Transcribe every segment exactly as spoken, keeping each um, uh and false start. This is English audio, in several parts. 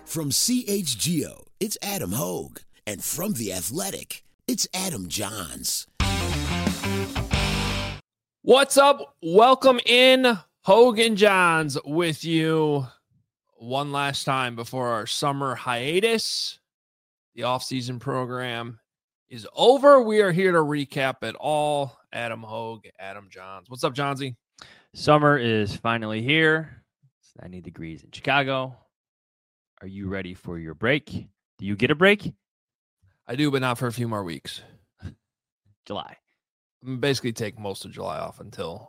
From C H G O, it's Adam Hogue. And from The Athletic, it's Adam Johns. What's up? Welcome in. Hogue and Johns with you one last time before our summer hiatus. The off-season program is over. We are here to recap it all. Adam Hogue, Adam Johns. What's up, Johnsy? Summer is finally here. It's ninety degrees in Chicago. Are you ready for your break? Do you get a break? I do, but not for a few more weeks. July. I'm basically take most of July off until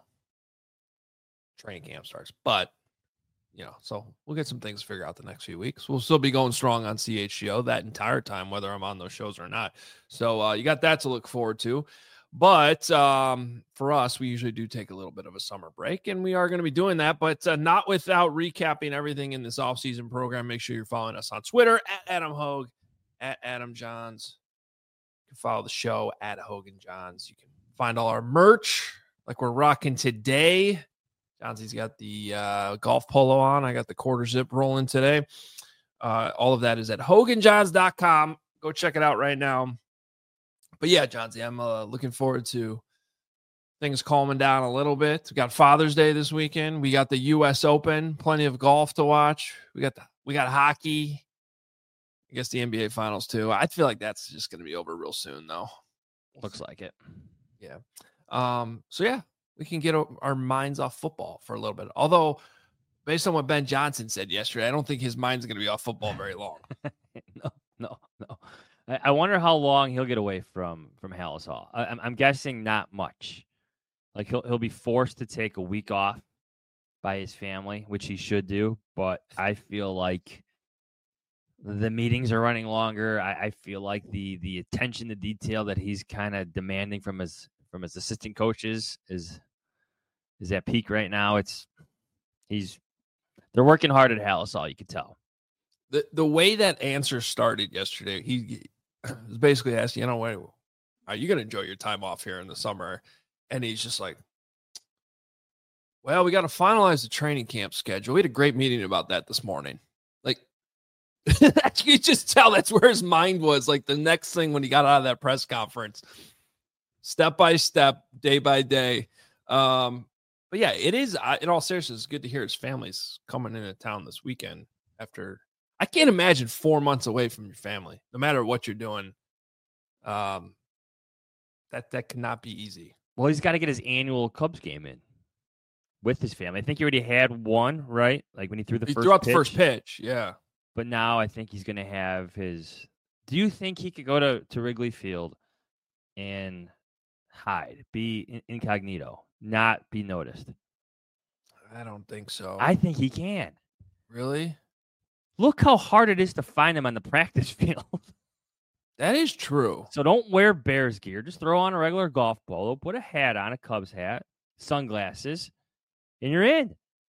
training camp starts. But, you know, so we'll get some things figured out the next few weeks. We'll still be going strong on C H G O that entire time, whether I'm on those shows or not. So uh, you got that to look forward to. But um, for us, we usually do take a little bit of a summer break, and we are going to be doing that, but uh, not without recapping everything in this offseason program. Make sure you're following us on Twitter, at Adam Hogue, at Adam Johns. You can follow the show, at Hogan Johns. You can find all our merch, like we're rocking today. Johnsy's got the uh, golf polo on. I got the quarter zip rolling today. Uh, all of that is at hogan johns dot com. Go check it out right now. But yeah, Johnsy, I'm uh, looking forward to things calming down a little bit. We got Father's Day this weekend. We got the U S Open, plenty of golf to watch. We got the, we got hockey. I guess the N B A Finals too. I feel like that's just going to be over real soon, though. Looks like it. Yeah. Um. So yeah, we can get our minds off football for a little bit. Although, based on what Ben Johnson said yesterday, I don't think his mind's going to be off football very long. no, no, no. I wonder how long he'll get away from from Halas Hall. I, I'm, I'm guessing not much. Like he'll he'll be forced to take a week off by his family, which he should do. But I feel like the meetings are running longer. I, I feel like the the attention to detail that he's kind of demanding from his from his assistant coaches is is at peak right now. It's he's they're working hard at Halas Hall. You can tell. The the way that answer started yesterday, he was basically asking, you know, what are you going to enjoy your time off here in the summer? And he's just like, well, we got to finalize the training camp schedule. We had a great meeting about that this morning. Like, you just tell that's where his mind was. Like the next thing when he got out of that press conference, step by step, day by day. Um, but yeah, it is, in all seriousness, it's good to hear his family's coming into town this weekend after. I can't imagine four months away from your family, no matter what you're doing. Um, that that cannot be easy. Well, he's got to get his annual Cubs game in with his family. I think he already had one, right? Like when he threw the he first threw out pitch. the first pitch, yeah. But now I think he's going to have his. Do you think he could go to, to Wrigley Field and hide, be incognito, not be noticed? I don't think so. I think he can. Really? Look how hard it is to find him on the practice field. That is true. So don't wear Bears gear. Just throw on a regular golf polo, put a hat on, a Cubs hat, sunglasses, and you're in.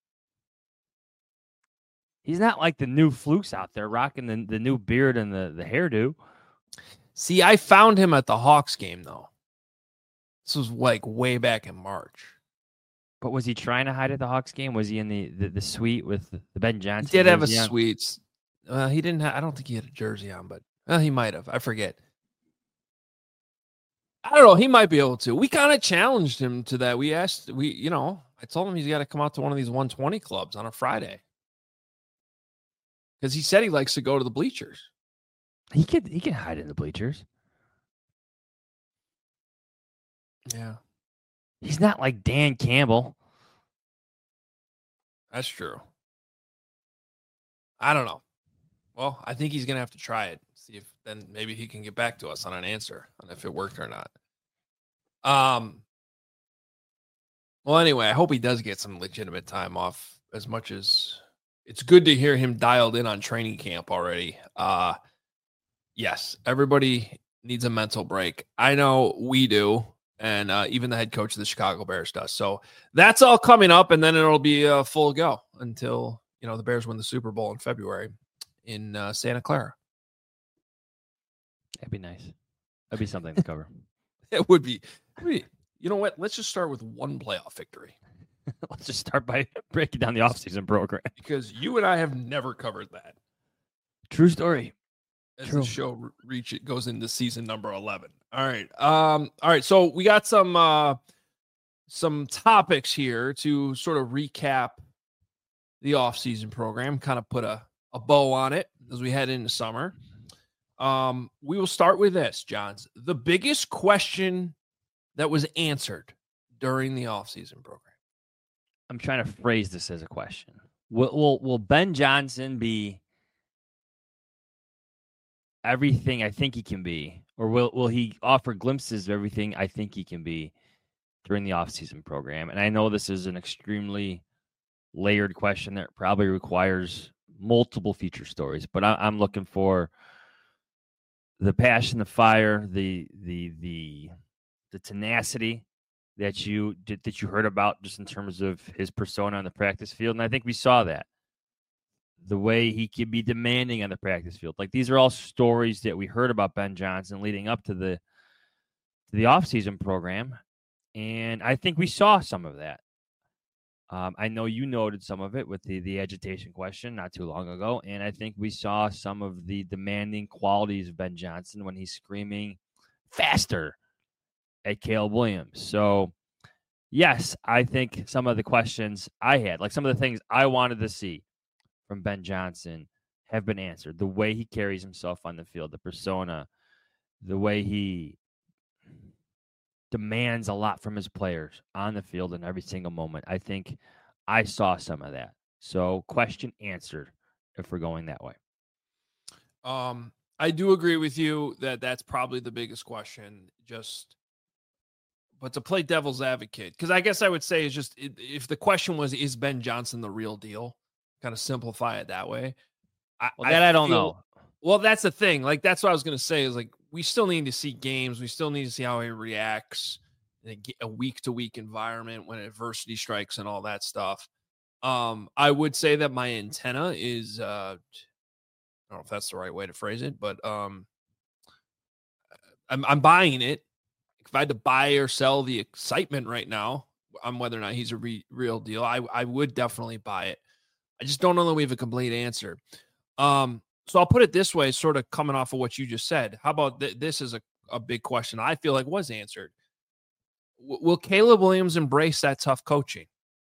He's not like the new flukes out there rocking the, the new beard and the, the hairdo. See, I found him at the Hawks game, though. This was like way back in March. But was he trying to hide at the Hawks game? Was he in the, the, the suite with the Ben Johnson? He did have a on? suite. Uh, he didn't. Ha- I don't think he had a jersey on, but well, he might have. I forget. I don't know. He might be able to. We kind of challenged him to that. We asked. We, you know, I told him he's got to come out to one of these one twenty clubs on a Friday because he said he likes to go to the bleachers. He could. He can hide in the bleachers. Yeah. He's not like Dan Campbell. That's true. I don't know. Well, I think he's going to have to try it. See if then maybe he can get back to us on an answer on if it worked or not. Um. Well, anyway, I hope he does get some legitimate time off as much as it's good to hear him dialed in on training camp already. Uh, yes, everybody needs a mental break. I know we do. And uh, even the head coach of the Chicago Bears does. So that's all coming up, and then it'll be a full go until, you know, the Bears win the Super Bowl in February in uh, Santa Clara. That'd be nice. That'd be something to cover. It would be. You know what? Let's just start with one playoff victory. Let's just start by breaking down the offseason program. Because you and I have never covered that. True story. As True. the show re- reach it goes into season number eleven. All right. Um, all right. So we got some uh some topics here to sort of recap the off-season program, kind of put a, a bow on it as we head into summer. Um, we will start with this, Johns. The biggest question that was answered during the off-season program. I'm trying to phrase this as a question. Will will, will Ben Johnson be everything I think he can be, or will will he offer glimpses of everything I think he can be during the offseason program? And I know this is an extremely layered question that probably requires multiple feature stories, but I, I'm looking for the passion, the fire, the the the the tenacity that you did, that you heard about just in terms of his persona on the practice field, and I think we saw that. The way he can be demanding on the practice field. Like, these are all stories that we heard about Ben Johnson leading up to the to the offseason program. And I think we saw some of that. Um, I know you noted some of it with the, the agitation question not too long ago. And I think we saw some of the demanding qualities of Ben Johnson when he's screaming faster at Caleb Williams. So, yes, I think some of the questions I had, like some of the things I wanted to see from Ben Johnson, have been answered. The way he carries himself on the field, the persona, the way he demands a lot from his players on the field in every single moment. I think I saw some of that. So, question answered if we're going that way. Um, I do agree with you that that's probably the biggest question. Just, but to play devil's advocate, because I guess I would say is just if the question was, is Ben Johnson the real deal? Kind of simplify it that way. I, well, that I, I don't feel, know. Well, that's the thing. Like, that's what I was going to say is like, we still need to see games. We still need to see how he reacts in a week to week environment when adversity strikes and all that stuff. Um, I would say that my antenna is, uh, I don't know if that's the right way to phrase it, but um, I'm, I'm buying it. If I had to buy or sell the excitement right now on whether or not he's a re- real deal, I, I would definitely buy it. I just don't know that we have a complete answer. Um, so I'll put it this way, sort of coming off of what you just said. How about th- this is a, a big question I feel like was answered. W- will Caleb Williams embrace that tough coaching?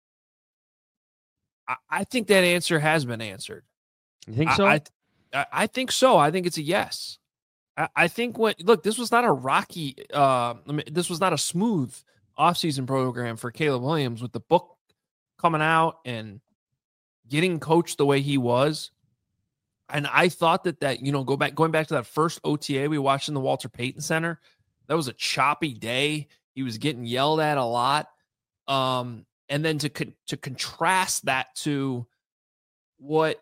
I, I think that answer has been answered. You think so? I, I, I think so. I think it's a yes. I, I think what, look, this was not a rocky, uh, I mean, this was not a smooth offseason program for Caleb Williams with the book coming out and getting coached the way he was. And I thought that that, you know, go back, going back to that first O T A we watched in the Walter Payton Center, that was a choppy day. He was getting yelled at a lot. Um, and then to, con- to contrast that to what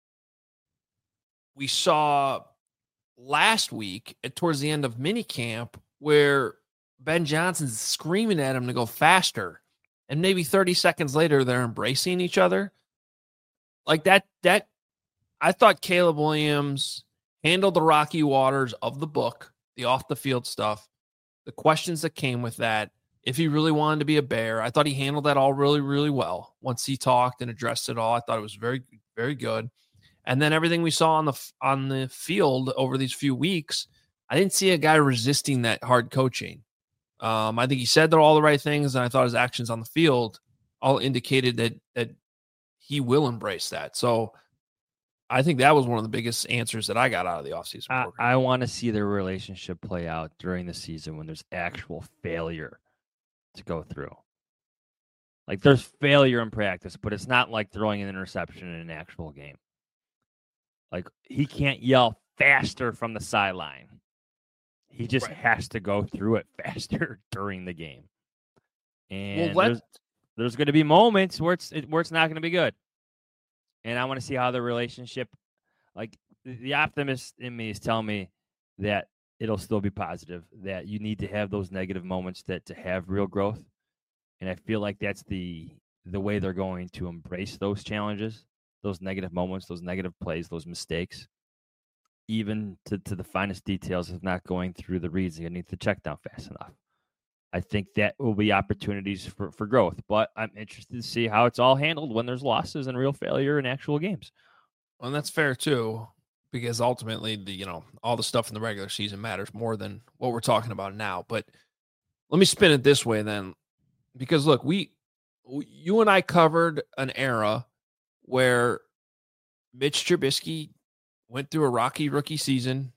we saw last week at towards the end of minicamp, where Ben Johnson's screaming at him to go faster. And maybe thirty seconds later, they're embracing each other. Like that, that I thought Caleb Williams handled the rocky waters of the book, the off the field stuff, the questions that came with that. If he really wanted to be a Bear, I thought he handled that all really, really well. Once he talked and addressed it all, I thought it was very, very good. And then everything we saw on the on the field over these few weeks, I didn't see a guy resisting that hard coaching. Um, I think he said all the right things, and I thought his actions on the field all indicated that that he will embrace that. So I think that was one of the biggest answers that I got out of the offseason program. I, I want to see their relationship play out during the season when there's actual failure to go through. Like, there's failure in practice, but it's not like throwing an interception in an actual game. Like, he can't yell faster from the sideline. He just right. has to go through it faster during the game. And well, there's, there's going to be moments where it's where it's not going to be good. And I want to see how the relationship, like the optimist in me is telling me that it'll still be positive, that you need to have those negative moments that to have real growth. And I feel like that's the the way they're going to embrace those challenges, those negative moments, those negative plays, those mistakes, even to, to the finest details of not going through the reads and getting the check down fast enough. I think that will be opportunities for, for growth, but I'm interested to see how it's all handled when there's losses and real failure in actual games. Well, and that's fair too. because ultimately the you know all the stuff in the regular season matters more than what we're talking about now. But let me spin it this way then, because look, we you and I covered an era where Mitch Trubisky went through a rocky rookie season,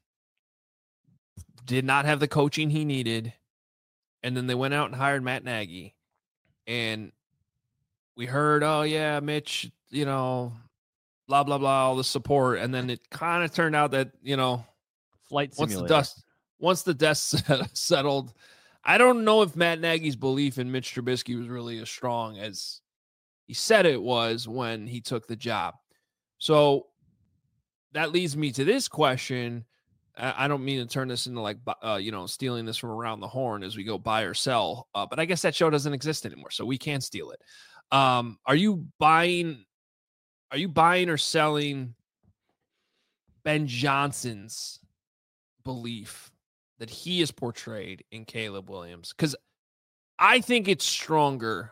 did not have the coaching he needed, and then they went out and hired Matt Nagy. And we heard, oh, yeah, Mitch, you know, blah, blah, blah, all the support. And then it kind of turned out that, you know, Flight once simulator. the dust, once the dust settled, I don't know if Matt Nagy's belief in Mitch Trubisky was really as strong as he said it was when he took the job. So that leads me to this question. I don't mean to turn this into like, uh, you know, stealing this from around the horn as we go buy or sell. Uh, but I guess that show doesn't exist anymore, so we can't steal it. Um, are you buying, are you buying or selling Ben Johnson's belief that he is portrayed in Caleb Williams? Because I think it's stronger.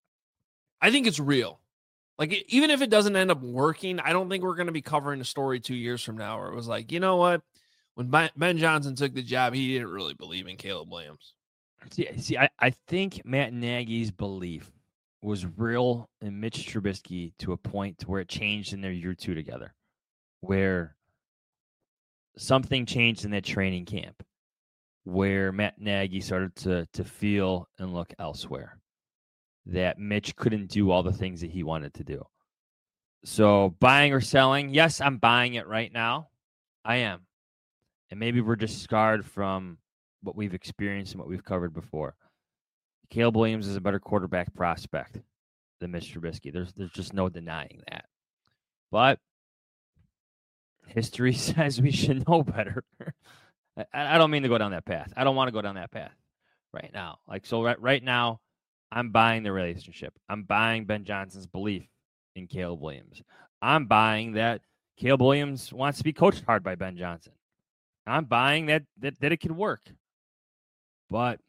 I think it's real. Like, even if it doesn't end up working, I don't think we're going to be covering a story two years from now where it was like, you know what? When Ben Johnson took the job, he didn't really believe in Caleb Williams. See, see I, I think Matt Nagy's belief was real in Mitch Trubisky to a point to where it changed in their year two together, where something changed in that training camp, where Matt Nagy started to to feel and look elsewhere, that Mitch couldn't do all the things that he wanted to do. So buying or selling, yes, I'm buying it right now. I am. And maybe we're just scarred from what we've experienced and what we've covered before. Caleb Williams is a better quarterback prospect than Mitch Trubisky. There's there's just no denying that. But history says we should know better. I, I don't mean to go down that path. I don't want to go down that path right now. Like so right, right now, I'm buying the relationship. I'm buying Ben Johnson's belief in Caleb Williams. I'm buying that Caleb Williams wants to be coached hard by Ben Johnson. I'm buying that that, that it could work. But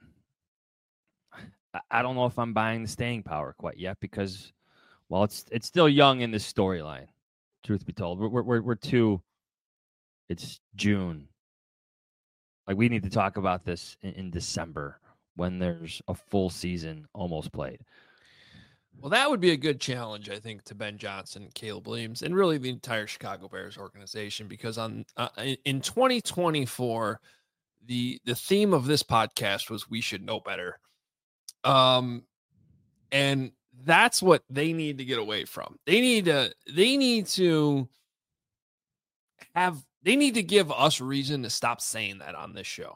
I don't know if I'm buying the staying power quite yet because, well, it's it's still young in this storyline, truth be told. We're, we're, we're too, it's June. Like, we need to talk about this in, in December when there's a full season almost played. Well, that would be a good challenge, I think, to Ben Johnson, Caleb Williams, and really the entire Chicago Bears organization, because on uh, in twenty twenty-four, the the theme of this podcast was "We should know better," um, and that's what they need to get away from. They need to they need to have they need to give us reason to stop saying that on this show.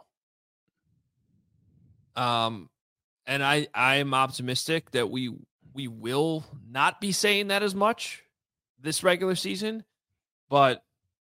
Um, and I I am optimistic that we. We will not be saying that as much this regular season, but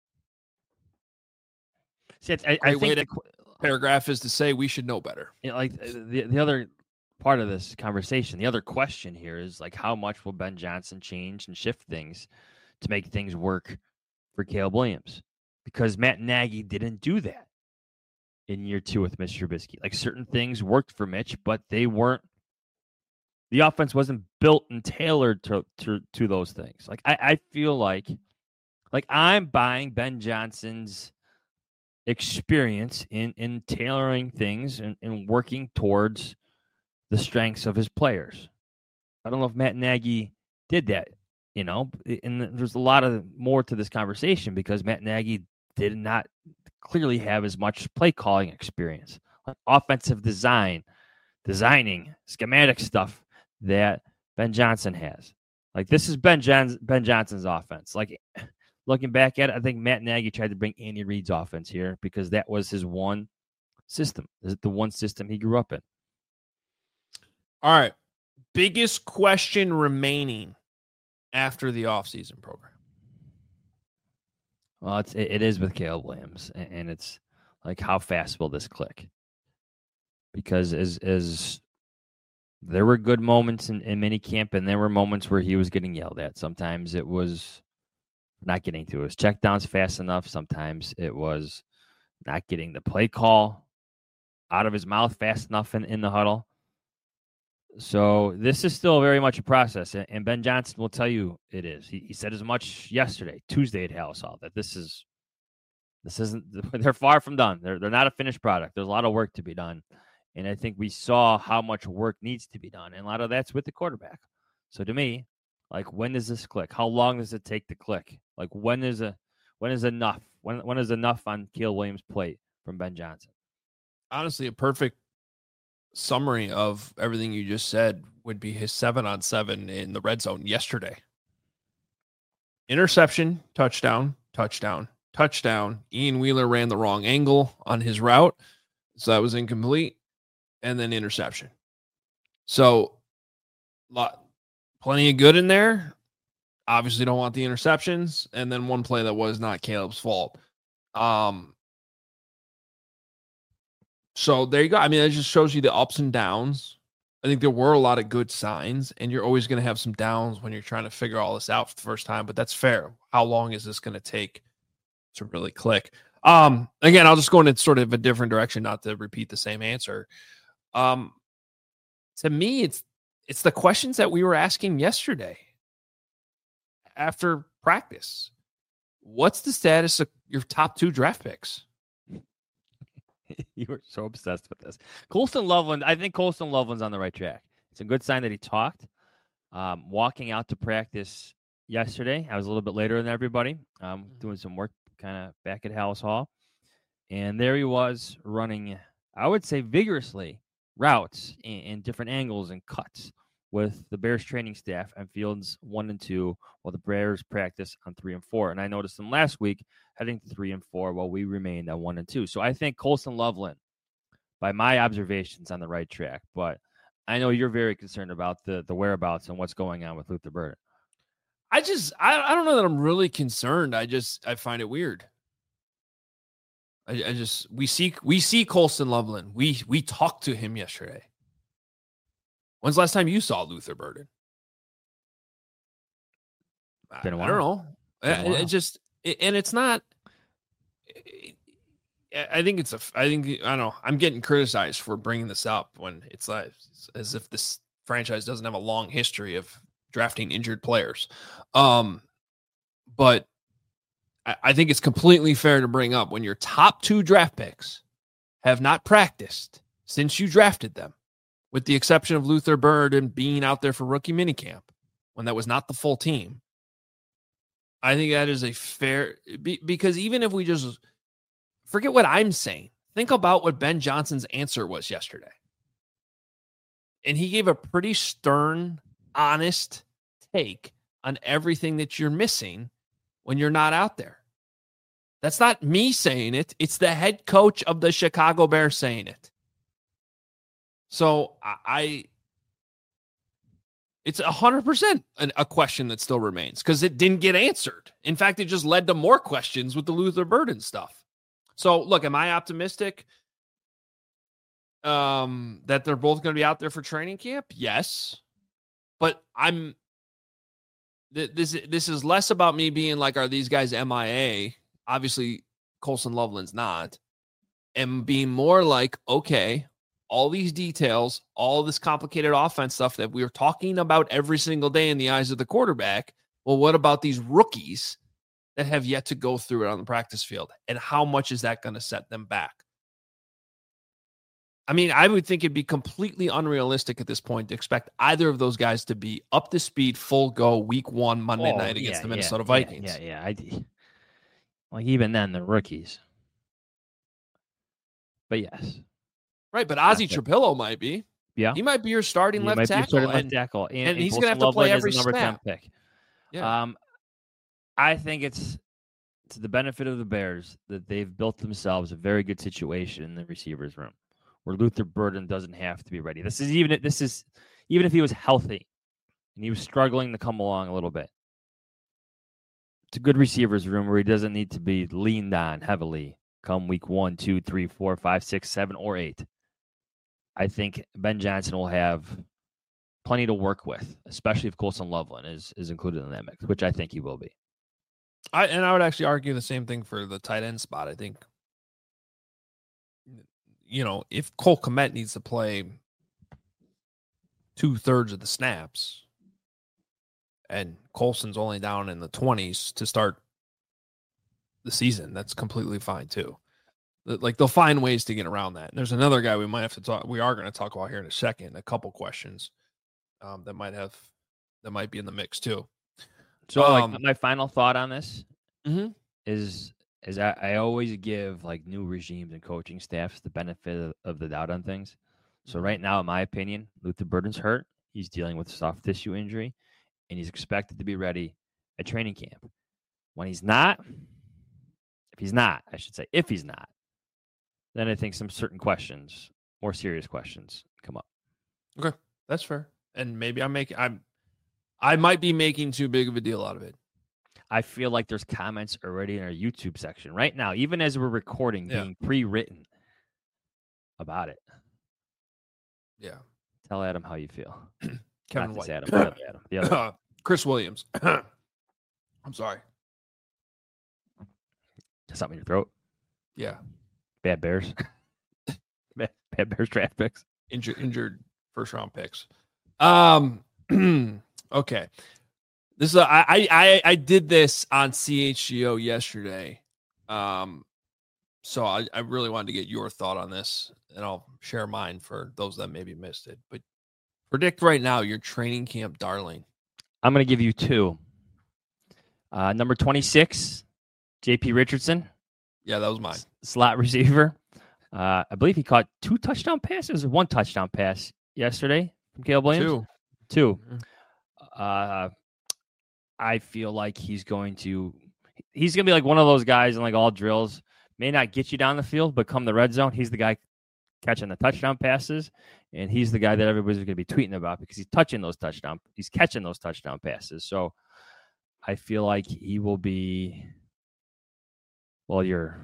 See, I, I think the paragraph is to say we should know better. You know, like the the other part of this conversation, the other question here is like, how much will Ben Johnson change and shift things to make things work for Caleb Williams? Because Matt Nagy didn't do that in year two with Mitch Trubisky. Like, certain things worked for Mitch, but they weren't. The offense wasn't built and tailored to, to, to those things. Like, I, I feel like, like I'm buying Ben Johnson's experience in, in tailoring things and, and working towards the strengths of his players. I don't know if Matt Nagy did that, you know, and there's a lot of more to this conversation because Matt Nagy did not clearly have as much play calling experience, like offensive design, designing, schematic stuff that Ben Johnson has. Like, this is Ben John- Ben Johnson's offense. Like, looking back at it, I think Matt Nagy tried to bring Andy Reid's offense here because that was his one system. The one system he grew up in. All right. Biggest question remaining after the offseason program. Well, it's, it, it is with Caleb Williams, and it's like, how fast will this click? Because as as there were good moments in, in minicamp, and there were moments where he was getting yelled at. Sometimes it was not getting to his checkdowns fast enough. Sometimes it was not getting the play call out of his mouth fast enough in, in the huddle. So this is still very much a process, and Ben Johnson will tell you it is. He, he said as much yesterday, Tuesday at Halas Hall, that this is This isn't. They're far from done. They're they're not a finished product. There's a lot of work to be done, and I think we saw how much work needs to be done, and a lot of that's with the quarterback. So to me, like, when does this click? How long does it take to click? Like, when is a when is enough? When when is enough on Caleb Williams' plate from Ben Johnson? Honestly, a perfect summary of everything you just said would be his seven on seven in the red zone yesterday. Interception, touchdown, touchdown, touchdown. Ian Wheeler ran the wrong angle on his route, so that was incomplete, and then interception. So, lot, plenty of good in there. Obviously, don't want the interceptions, and then one play that was not Caleb's fault. Um. So there you go. I mean, it just shows you the ups and downs. I think there were a lot of good signs, and you're always going to have some downs when you're trying to figure all this out for the first time, but that's fair. How long is this going to take to really click? Um, again, I'll just go in sort of a different direction, not to repeat the same answer. Um, to me, it's it's the questions that we were asking yesterday after practice. What's the status of your top two draft picks? You were so obsessed with this. Colston Loveland, I think Colston Loveland's on the right track. It's a good sign that he talked. Um, walking out to practice yesterday, I was a little bit later than everybody, um, doing some work kind of back at Hallis Hall. And there he was running, I would say vigorously, routes in, in different angles and cuts with the Bears training staff on fields one and two, while the Bears practice on three and four. And I noticed him last week heading to three and four while we remained on one and two. So I think Colston Loveland, by my observations, on the right track. But I know you're very concerned about the the whereabouts and what's going on with Luther Burden. I just, I, I don't know that I'm really concerned. I just, I find it weird. I, I just, we see, we see Colston Loveland. We, we talked to him yesterday. When's the last time you saw Luther Burden? Been a while. I don't know. It, it just, it, and it's not, it, I think it's a, I think, I don't know. I'm getting criticized for bringing this up when it's like, it's as if this franchise doesn't have a long history of drafting injured players. Um, but I, I think it's completely fair to bring up when your top two draft picks have not practiced since you drafted them, with the exception of Luther Burden being out there for rookie minicamp when that was not the full team. I think that is a fair, because even if we just forget what I'm saying, think about what Ben Johnson's answer was yesterday. And he gave a pretty stern, honest take on everything that you're missing when you're not out there. That's not me saying it. It's the head coach of the Chicago Bears saying it. So I, it's one hundred percent an, a question that still remains because it didn't get answered. In fact, it just led to more questions with the Luther Burden stuff. So, look, am I optimistic um, that they're both going to be out there for training camp? Yes. But I'm th- this, this is less about me being like, are these guys M I A? Obviously, Colston Loveland's not. And being more like, okay, all these details, all this complicated offense stuff that we are talking about every single day in the eyes of the quarterback. Well, what about these rookies that have yet to go through it on the practice field? And how much is that going to set them back? I mean, I would think it'd be completely unrealistic at this point to expect either of those guys to be up to speed, full go, week one, Monday oh, night against yeah, the Minnesota yeah, Vikings. Yeah, yeah. yeah. I, like, even then, the rookies. But yes. Right, but Ozzie Trapillo might be. Yeah. He might be your starting he left might tackle. Be starting and, left tackle. And, and, and he's going to have to play every number snap. ten pick. Yeah. Um, I think it's to the benefit of the Bears that they've built themselves a very good situation in the receivers room where Luther Burden doesn't have to be ready. This is even this is even if he was healthy and he was struggling to come along a little bit. It's a good receivers room where he doesn't need to be leaned on heavily come week one, two, three, four, five, six, seven, or eight. I think Ben Johnson will have plenty to work with, especially if Colston Loveland is, is included in that mix, which I think he will be. I and I would actually argue the same thing for the tight end spot. I think, you know, if Cole Kmet needs to play two thirds of the snaps and Colston's only down in the twenties to start the season. That's completely fine too. Like they'll find ways to get around that. And there's another guy we might have to talk. We are going to talk about here in a second. A couple questions um, that might have that might be in the mix too. So, um, like my final thought on this mm-hmm. is is I, I always give like new regimes and coaching staffs the benefit of, of the doubt on things. So right now, in my opinion, Luther Burden's hurt. He's dealing with a soft tissue injury, and he's expected to be ready at training camp. When he's not, if he's not, I should say, if he's not, then I think some certain questions, more serious questions, come up. Okay, that's fair. And maybe I'm making, I'm, I might be making too big of a deal out of it. I feel like there's comments already in our YouTube section right now, even as we're recording, Yeah. being pre-written about it. Yeah. Tell Adam how you feel. Kevin Not White. this Adam, the other Adam. The other. Chris Williams. I'm sorry. Something in your throat. Yeah. Bad Bears. bad, bad Bears draft picks. Injured, injured first round picks. Um. Okay. This is a, I I I did this on C H G O yesterday. Um. So I, I really wanted to get your thought on this, and I'll share mine for those that maybe missed it. But predict right now your training camp darling. I'm going to give you two. Uh, number twenty-six, J P Richardson. Yeah, that was mine. S- slot receiver. Uh, I believe he caught two touchdown passes or one touchdown pass yesterday from Caleb Williams. Two. Two. Mhm. Uh, I feel like he's going to he's going to be like one of those guys in like all drills. May not get you down the field, but come the red zone, he's the guy catching the touchdown passes, and he's the guy that everybody's going to be tweeting about because he's touching those touchdown, he's catching those touchdown passes. So I feel like he will be, well, your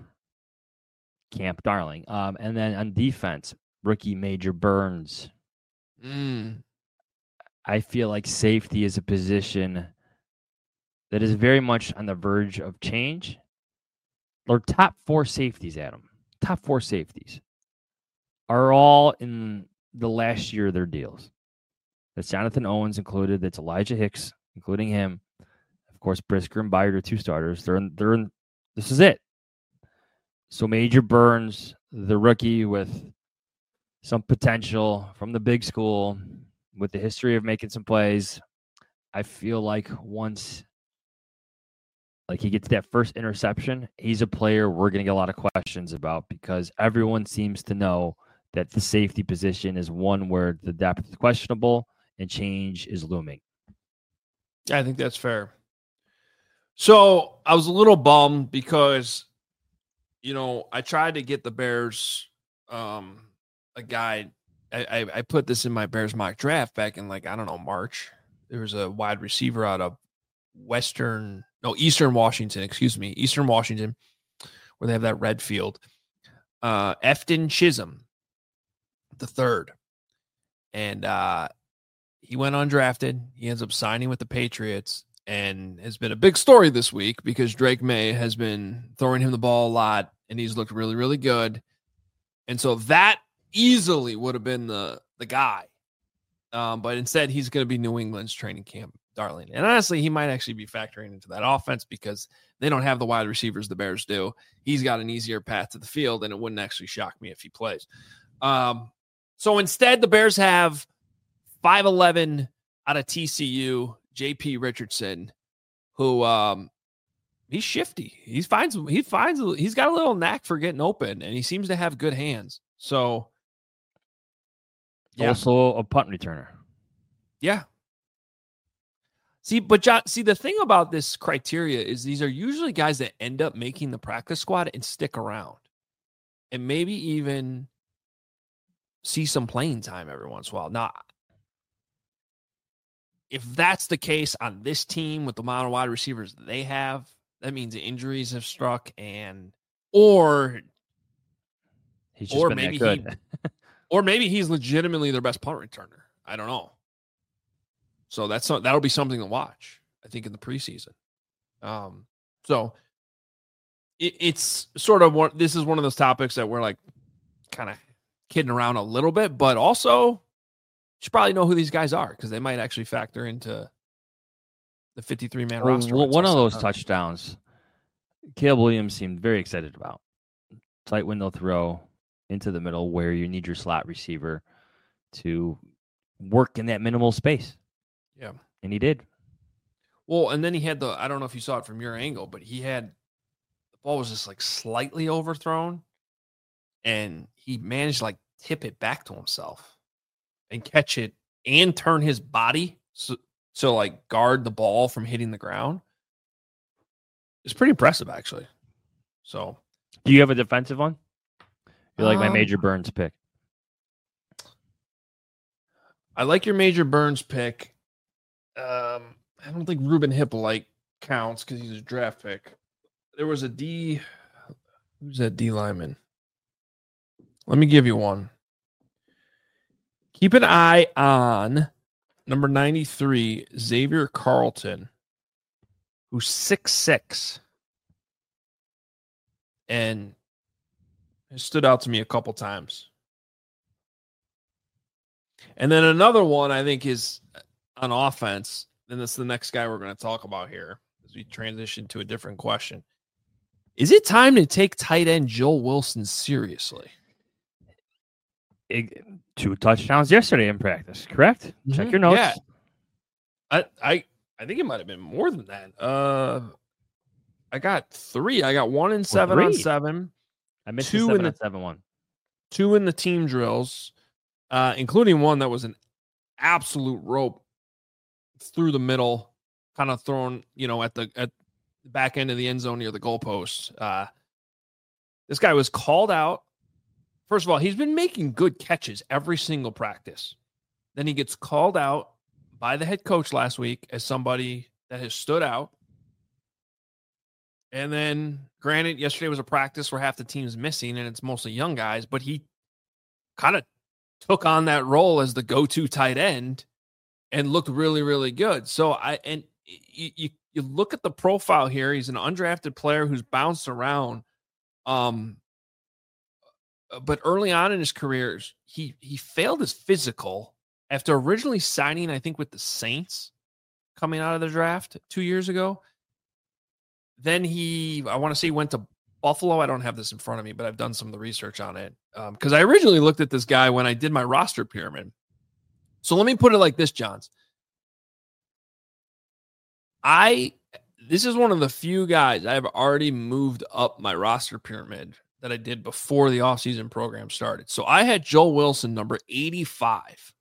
camp darling. Um, and then on defense, rookie Major Burns. Mm. I feel like safety is a position that is very much on the verge of change. Or top four safeties, Adam. Top four safeties are all in the last year of their deals. That's Jonathan Owens included. That's Elijah Hicks, including him. Of course, Brisker and Byard are two starters. They're in, they're in, this is it. So Major Burns, the rookie with some potential from the big school, with the history of making some plays. I feel like once like he gets that first interception, he's a player we're going to get a lot of questions about because everyone seems to know that the safety position is one where the depth is questionable and change is looming. Yeah, I think that's fair. So I was a little bummed because, you know, I tried to get the Bears um, a guy. I, I, I put this in my Bears mock draft back in like, I don't know, March. There was a wide receiver out of Western, no, Eastern Washington, excuse me, Eastern Washington, where they have that red field. Uh, Efton Chisholm, the third. And uh, he went undrafted. He ends up signing with the Patriots and has been a big story this week because Drake May has been throwing him the ball a lot and he's looked really, really good. And so that easily would have been the, the guy. Um, but instead, he's going to be New England's training camp darling. And honestly, he might actually be factoring into that offense because they don't have the wide receivers the Bears do. He's got an easier path to the field, and it wouldn't actually shock me if he plays. Um, so instead, the Bears have five eleven out of T C U, J P Richardson, who um, he's shifty. He finds he finds he's got a little knack for getting open, and he seems to have good hands. So, yeah. Also a punt returner. Yeah. See, but John, see, the thing about this criteria is these are usually guys that end up making the practice squad and stick around and maybe even see some playing time every once in a while. Now, if that's the case on this team with the amount of wide receivers they have, that means injuries have struck and, or, he's just or been maybe that he, good. or maybe he's legitimately their best punt returner. I don't know. So that's that'll be something to watch, I think, in the preseason. Um, so it, it's sort of one. This is one of those topics that we're like kind of kidding around a little bit, but also you should probably know who these guys are because they might actually factor into the fifty-three man well, roster. One of those touchdowns Caleb Williams seemed very excited about. Tight window throw into the middle where you need your slot receiver to work in that minimal space. Yeah. And he did. Well, and then he had the, I don't know if you saw it from your angle, but he had, the ball was just like slightly overthrown and he managed to like tip it back to himself and catch it and turn his body so, so like guard the ball from hitting the ground. It's pretty impressive, actually. So, do you have a defensive one? You like um, my Major Burns pick? I like your Major Burns pick. Um, I don't think Ruben Hippolyte counts because he's a draft pick. There was a D. Who's that D lineman? Let me give you one. Keep an eye on number ninety-three, Xavier Carlton, who's six six. And it stood out to me a couple times. And then another one I think is on offense, and that's the next guy we're going to talk about here as we transition to a different question. Is it time to take tight end Joel Wilson seriously? It, two touchdowns yesterday in practice, correct? Mm-hmm. Check your notes. Yeah. I, I I think it might have been more than that. Uh, I got three. I got one in seven well, on seven. I missed two the seven in the on seven one. Two in the team drills, uh, including one that was an absolute rope through the middle, kind of thrown, you know, at the at the back end of the end zone near the goalpost. Uh, this guy was called out. First of all, he's been making good catches every single practice. Then he gets called out by the head coach last week as somebody that has stood out. And then, granted, yesterday was a practice where half the team's missing and it's mostly young guys, but he kind of took on that role as the go-to tight end and looked really, really good. So I and you you, you look at the profile here. He's an undrafted player who's bounced around. Um, but early on in his career, he he failed his physical after originally signing, I think, with the Saints coming out of the draft two years ago. Then he, I want to say, went to Buffalo. I don't have this in front of me, but I've done some of the research on it. Because um, I originally looked at this guy when I did my roster pyramid. So let me put it like this, Johns. I, this is one of the few guys I have already moved up my roster pyramid that I did before the offseason program started. So I had Joel Wilson, number eighty-five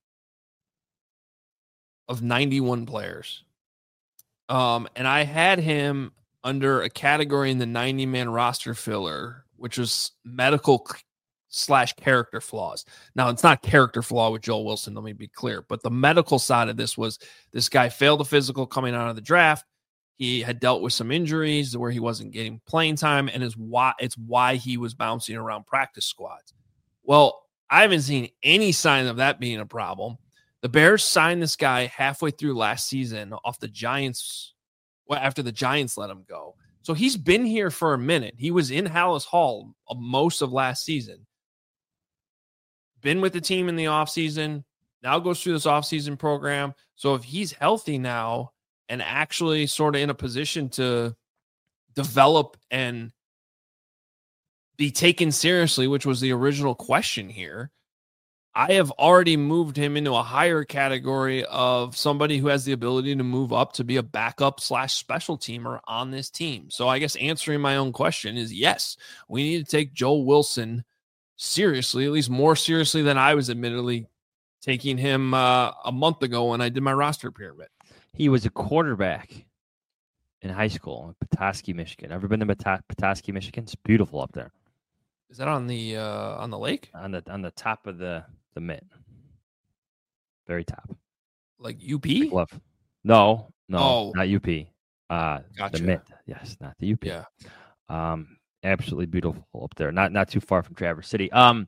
of ninety-one players. Um, and I had him under a category in the ninety-man roster filler, which was medical slash character flaws. Now, it's not character flaw with Joel Wilson, let me be clear, but the medical side of this was this guy failed a physical coming out of the draft. He had dealt with some injuries where he wasn't getting playing time, and is why it's why he was bouncing around practice squads. Well, I haven't seen any sign of that being a problem. The Bears signed this guy halfway through last season off the Giants. Well, after the Giants let him go. So he's been here for a minute. He was in Hallis Hall most of last season. Been with the team in the offseason. Now goes through this offseason program. So if he's healthy now and actually sort of in a position to develop and be taken seriously, which was the original question here, I have already moved him into a higher category of somebody who has the ability to move up to be a backup slash special teamer on this team. So I guess answering my own question is yes, we need to take Joel Wilson seriously, at least more seriously than I was admittedly taking him uh, a month ago when I did my roster pyramid. He was a quarterback in high school in Petoskey, Michigan. Ever been to Petoskey, Petoskey, Michigan? It's beautiful up there. Is that on the uh, on the lake? On the on the top of the the mitt, very top. Like U P? Like love. No, no, oh. not U P. Uh, gotcha. The mitt. Yes, not the U P. Yeah. Um, absolutely beautiful up there. Not not too far from Traverse City. Um,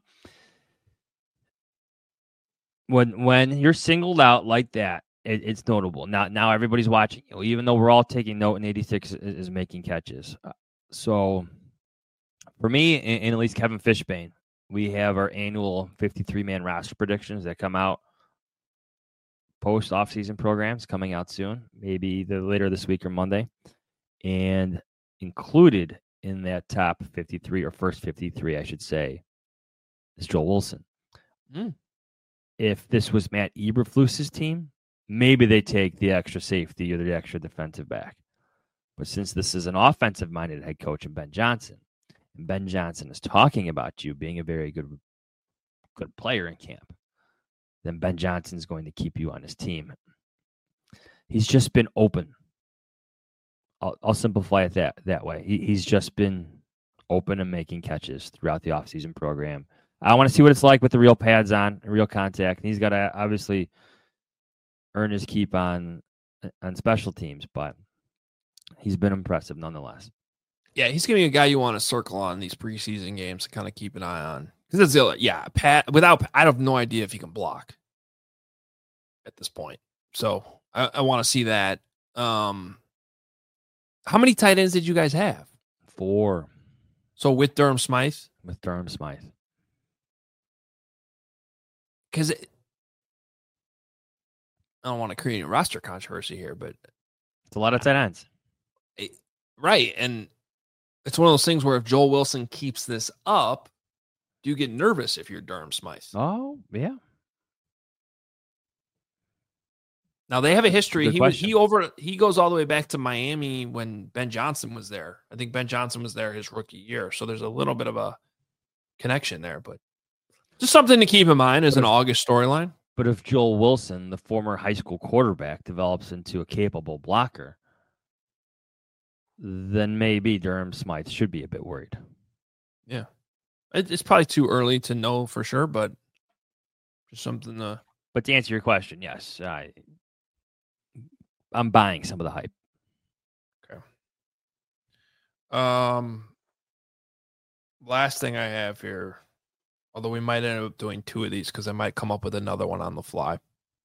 when when you're singled out like that, it, it's notable. Now now everybody's watching you, even though we're all taking note. And eighty-six is, is making catches. Uh, so. For me, and, and at least Kevin Fishbane, we have our annual fifty-three man roster predictions that come out post offseason programs coming out soon, maybe either later this week or Monday. And included in that top fifty-three, or first fifty-three, I should say, is Joel Wilson. Mm. If this was Matt Eberflus's team, maybe they take the extra safety or the extra defensive back. But since this is an offensive-minded head coach in Ben Johnson, and Ben Johnson is talking about you being a very good, good player in camp, then Ben Johnson's going to keep you on his team. He's just been open. I'll, I'll simplify it that, that way. He, he's just been open and making catches throughout the offseason program. I want to see what it's like with the real pads on, real contact. And he's got to obviously earn his keep on on special teams, but he's been impressive nonetheless. Yeah, he's going to be a guy you want to circle on these preseason games to kind of keep an eye on. Because that's the other, yeah, Pat, without, I have no idea if he can block at this point. So I, I want to see that. Um, how many tight ends did you guys have? Four. So with Durham Smythe? With Durham Smythe. Because I don't want to create a roster controversy here, but it's a lot of tight ends. It, right. And it's one of those things where if Joel Wilson keeps this up, do you get nervous if you're Durham Smythe? Oh, yeah. Now they have a history. Good He was question. he over he goes all the way back to Miami when Ben Johnson was there. I think Ben Johnson was there his rookie year. So there's a little bit of a connection there, but just something to keep in mind as an August storyline. But if Joel Wilson, the former high school quarterback, develops into a capable blocker, then maybe Durham Smythe should be a bit worried. Yeah. It, it's probably too early to know for sure, but just something to... But to answer your question, yes, I, I'm buying some of the hype. Okay. Um, last thing I have here, although we might end up doing two of these because I might come up with another one on the fly.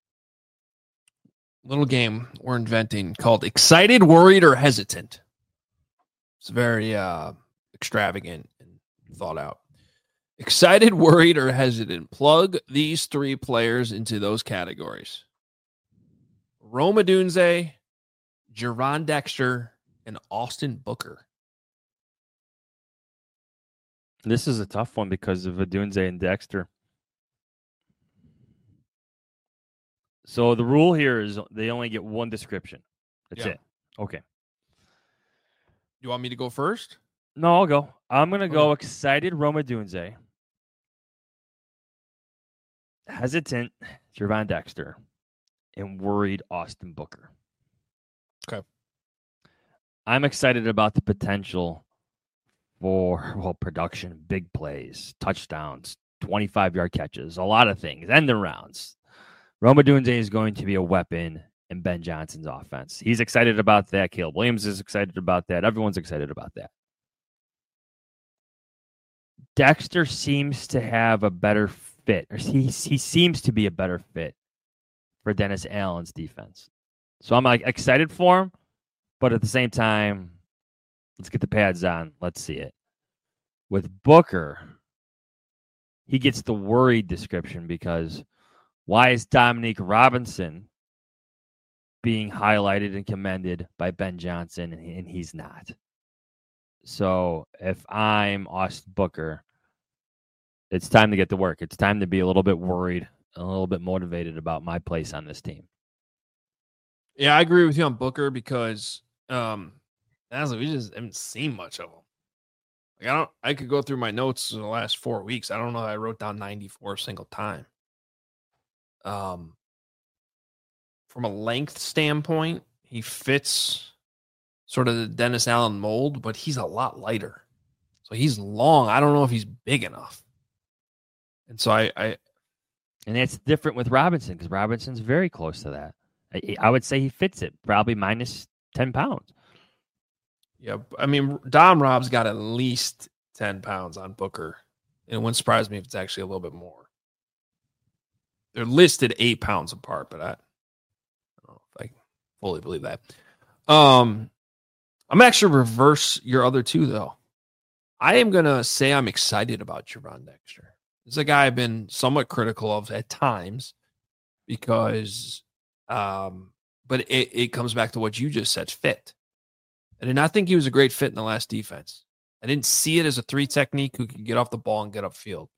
Little game we're inventing called Excited, Worried, or Hesitant. It's very uh, extravagant and thought out. Excited, worried, or hesitant. Plug these three players into those categories. Rome Odunze, Jerron Dexter, and Austin Booker. This is a tough one because of Odunze and Dexter. So the rule here is they only get one description. That's Yeah. it. Okay. You want me to go first? No, I'll go. I'm going to go Okay. excited Rome Odunze. Hesitant Jerron Dexter. And worried Austin Booker. Okay. I'm excited about the potential for, well, production, big plays, touchdowns, twenty-five-yard catches, a lot of things, end rounds. Rome Odunze is going to be a weapon in Ben Johnson's offense. He's excited about that. Caleb Williams is excited about that. Everyone's excited about that. Dexter seems to have a better fit, or he, he seems to be a better fit for Dennis Allen's defense. So I'm like excited for him, but at the same time, let's get the pads on. Let's see it. With Booker, he gets the worried description because why is Dominique Robinson being highlighted and commended by Ben Johnson and, and he's not? So if I'm Austin Booker, it's time to get to work. It's time to be a little bit worried, a little bit motivated about my place on this team. Yeah, I agree with you on Booker because um, honestly, we just haven't seen much of him. Like I don't, I could go through my notes in the last four weeks. I don't know. I wrote down ninety-four a single time. Um, from a length standpoint, he fits sort of the Dennis Allen mold, but he's a lot lighter. So he's long. I don't know if he's big enough. And so I, I and that's different with Robinson because Robinson's very close to that. I, I would say he fits it, probably minus ten pounds. Yeah, I mean, Dom Rob's got at least ten pounds on Booker. And it wouldn't surprise me if it's actually a little bit more. They're listed eight pounds apart, but I, I don't know if I fully believe that. Um, I'm actually reverse your other two, though. I am going to say I'm excited about Jerron Dexter. This is a guy I've been somewhat critical of at times because, um, but it, it comes back to what you just said, fit. I did not think he was a great fit in the last defense. I didn't see it as a three technique who could get off the ball and get upfield.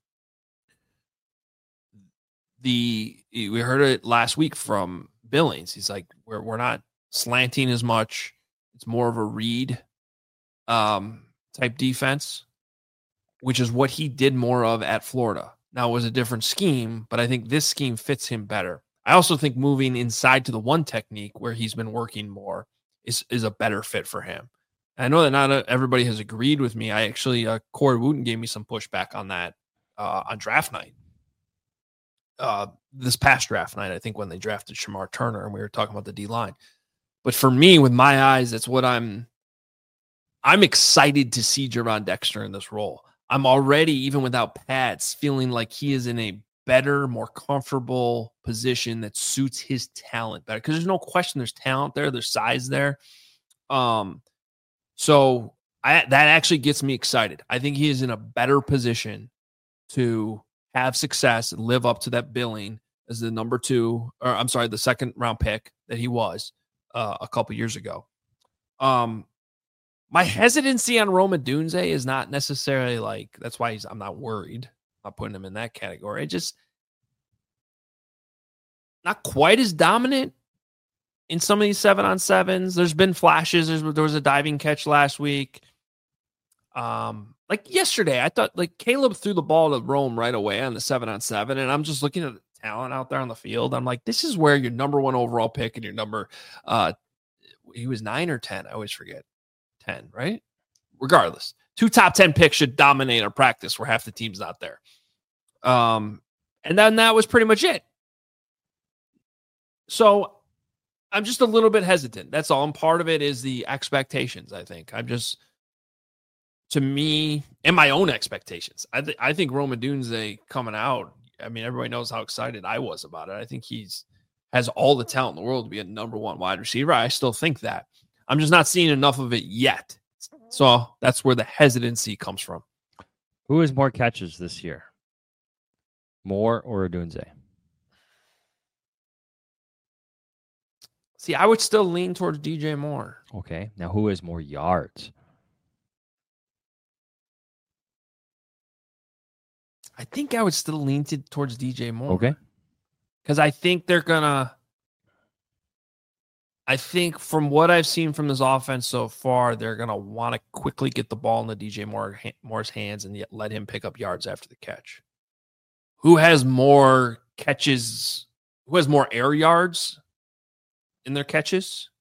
The we heard it last week from Billings. He's like, we're we're not slanting as much. It's more of a read um, type defense, which is what he did more of at Florida. Now, it was a different scheme, but I think this scheme fits him better. I also think moving inside to the one technique where he's been working more is, is a better fit for him. And I know that not everybody has agreed with me. I actually, uh, Corey Wooten gave me some pushback on that uh, on draft night. Uh, this past draft night, I think when they drafted Shamar Turner and we were talking about the D-line. But for me, with my eyes, that's what I'm I'm excited to see Gervon Dexter in this role. I'm already, even without pads, feeling like he is in a better, more comfortable position that suits his talent better. Because there's no question there's talent there, there's size there. Um, so I, that actually gets me excited. I think he is in a better position to have success and live up to that billing as the number two, or I'm sorry, the second round pick that he was uh, a couple years ago. Um, My hesitancy on Rome Odunze is not necessarily like, that's why he's, I'm not worried. I'm not putting him in that category. It just not quite as dominant in some of these seven on sevens. There's been flashes. There's, there was a diving catch last week. Um, like yesterday, I thought like Caleb threw the ball to Rome right away on the seven on seven. And I'm just looking at the talent out there on the field. I'm like, this is where your number one overall pick and your number, uh, he was nine or ten. I always forget. ten, right? Regardless, two top ten picks should dominate a practice where half the team's not there. Um, and then that was pretty much it. So I'm just a little bit hesitant. That's all. And part of it is the expectations, I think. I'm just, to me, and my own expectations. I, th- I think Rome Odunze coming out, I mean, everybody knows how excited I was about it. I think he's has all the talent in the world to be a number one wide receiver. I still think that. I'm just not seeing enough of it yet. So that's where the hesitancy comes from. Who has more catches this year? Moore or Odunze? See, I would still lean towards D J Moore. Okay. Now, who has more yards? I think I would still lean to, towards D J Moore. Okay. Because I think they're going to... I think from what I've seen from this offense so far, they're going to want to quickly get the ball in the D J Moore, Moore's hands and yet let him pick up yards after the catch. Who has more catches? Who has more air yards in their catches?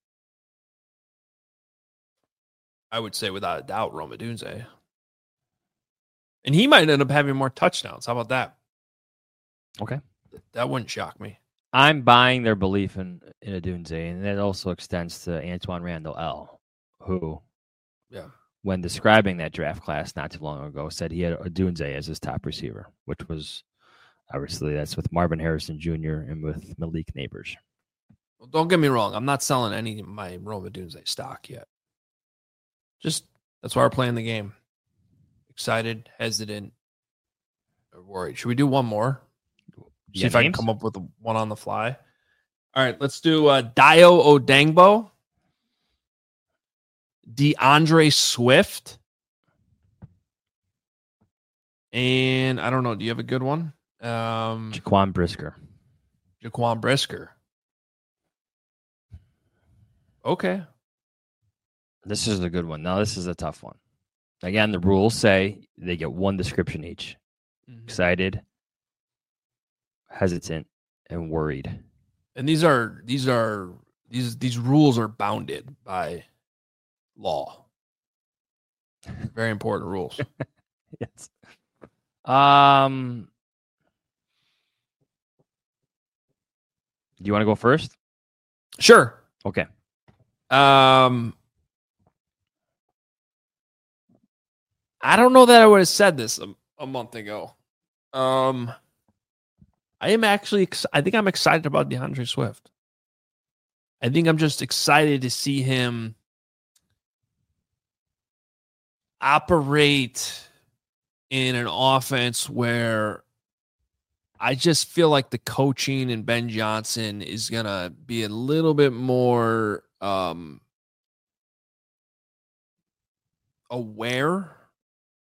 I would say without a doubt, Rome Odunze. And he might end up having more touchdowns. How about that? Okay. That wouldn't shock me. I'm buying their belief in, in Odunze, and that also extends to Antoine Randall L., who, yeah, when describing that draft class not too long ago, said he had Odunze as his top receiver, which was obviously that's with Marvin Harrison Junior and with Malik Neighbors. Well, don't get me wrong. I'm not selling any of my Rome Odunze stock yet. Just that's why we're playing the game. Excited, hesitant, or worried. Should we do one more? See if names? I can come up with one on the fly. All right, let's do uh, Dio Odangbo, DeAndre Swift, and I don't know. Do you have a good one? Um, Jaquan Brisker. Jaquan Brisker. Okay. This is a good one. Now, this is a tough one. Again, the rules say they get one description each. Mm-hmm. Excited, hesitant, and worried. And these are these are these these rules are bounded by law. Very important rules. Yes. Um Do you want to go first? Sure. Okay. Um I don't know that I would have said this a, a month ago. Um I am actually, ex- I think I'm excited about DeAndre Swift. I think I'm just excited to see him operate in an offense where I just feel like the coaching and Ben Johnson is going to be a little bit more um, aware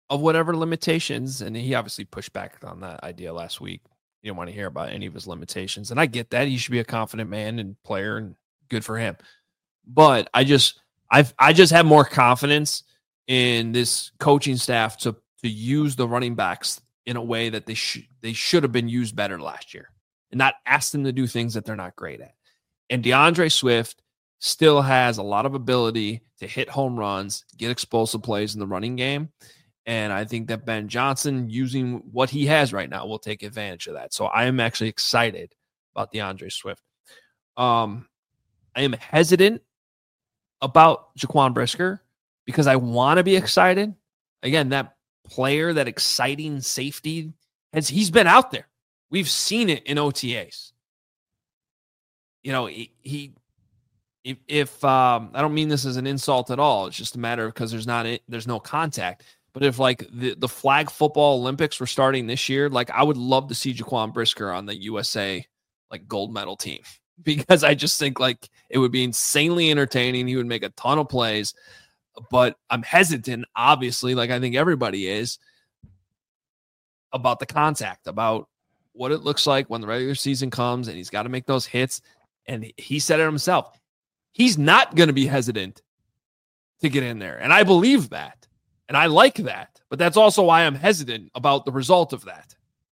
of whatever limitations, and he obviously pushed back on that idea last week. You don't want to hear about any of his limitations, and I get that. He should be a confident man and player, and good for him. But I just, I, I just have more confidence in this coaching staff to to use the running backs in a way that they should they should have been used better last year, and not ask them to do things that they're not great at. And DeAndre Swift still has a lot of ability to hit home runs, get explosive plays in the running game. And I think that Ben Johnson, using what he has right now, will take advantage of that. So I am actually excited about DeAndre Swift. Um, I am hesitant about Jaquan Brisker because I want to be excited. Again, that player, that exciting safety, has he's been out there. We've seen it in O T As. You know, he, he if, if um, I don't mean this as an insult at all. It's just a matter of because there's not there's no contact. But if like the, the flag football Olympics were starting this year, like I would love to see Jaquan Brisker on the U S A like gold medal team, because I just think like it would be insanely entertaining. He would make a ton of plays, but I'm hesitant, obviously, like I think everybody is, about the contact, about what it looks like when the regular season comes and he's got to make those hits. And he said it himself. He's not going to be hesitant to get in there. And I believe that. And I like that, but that's also why I'm hesitant about the result of that.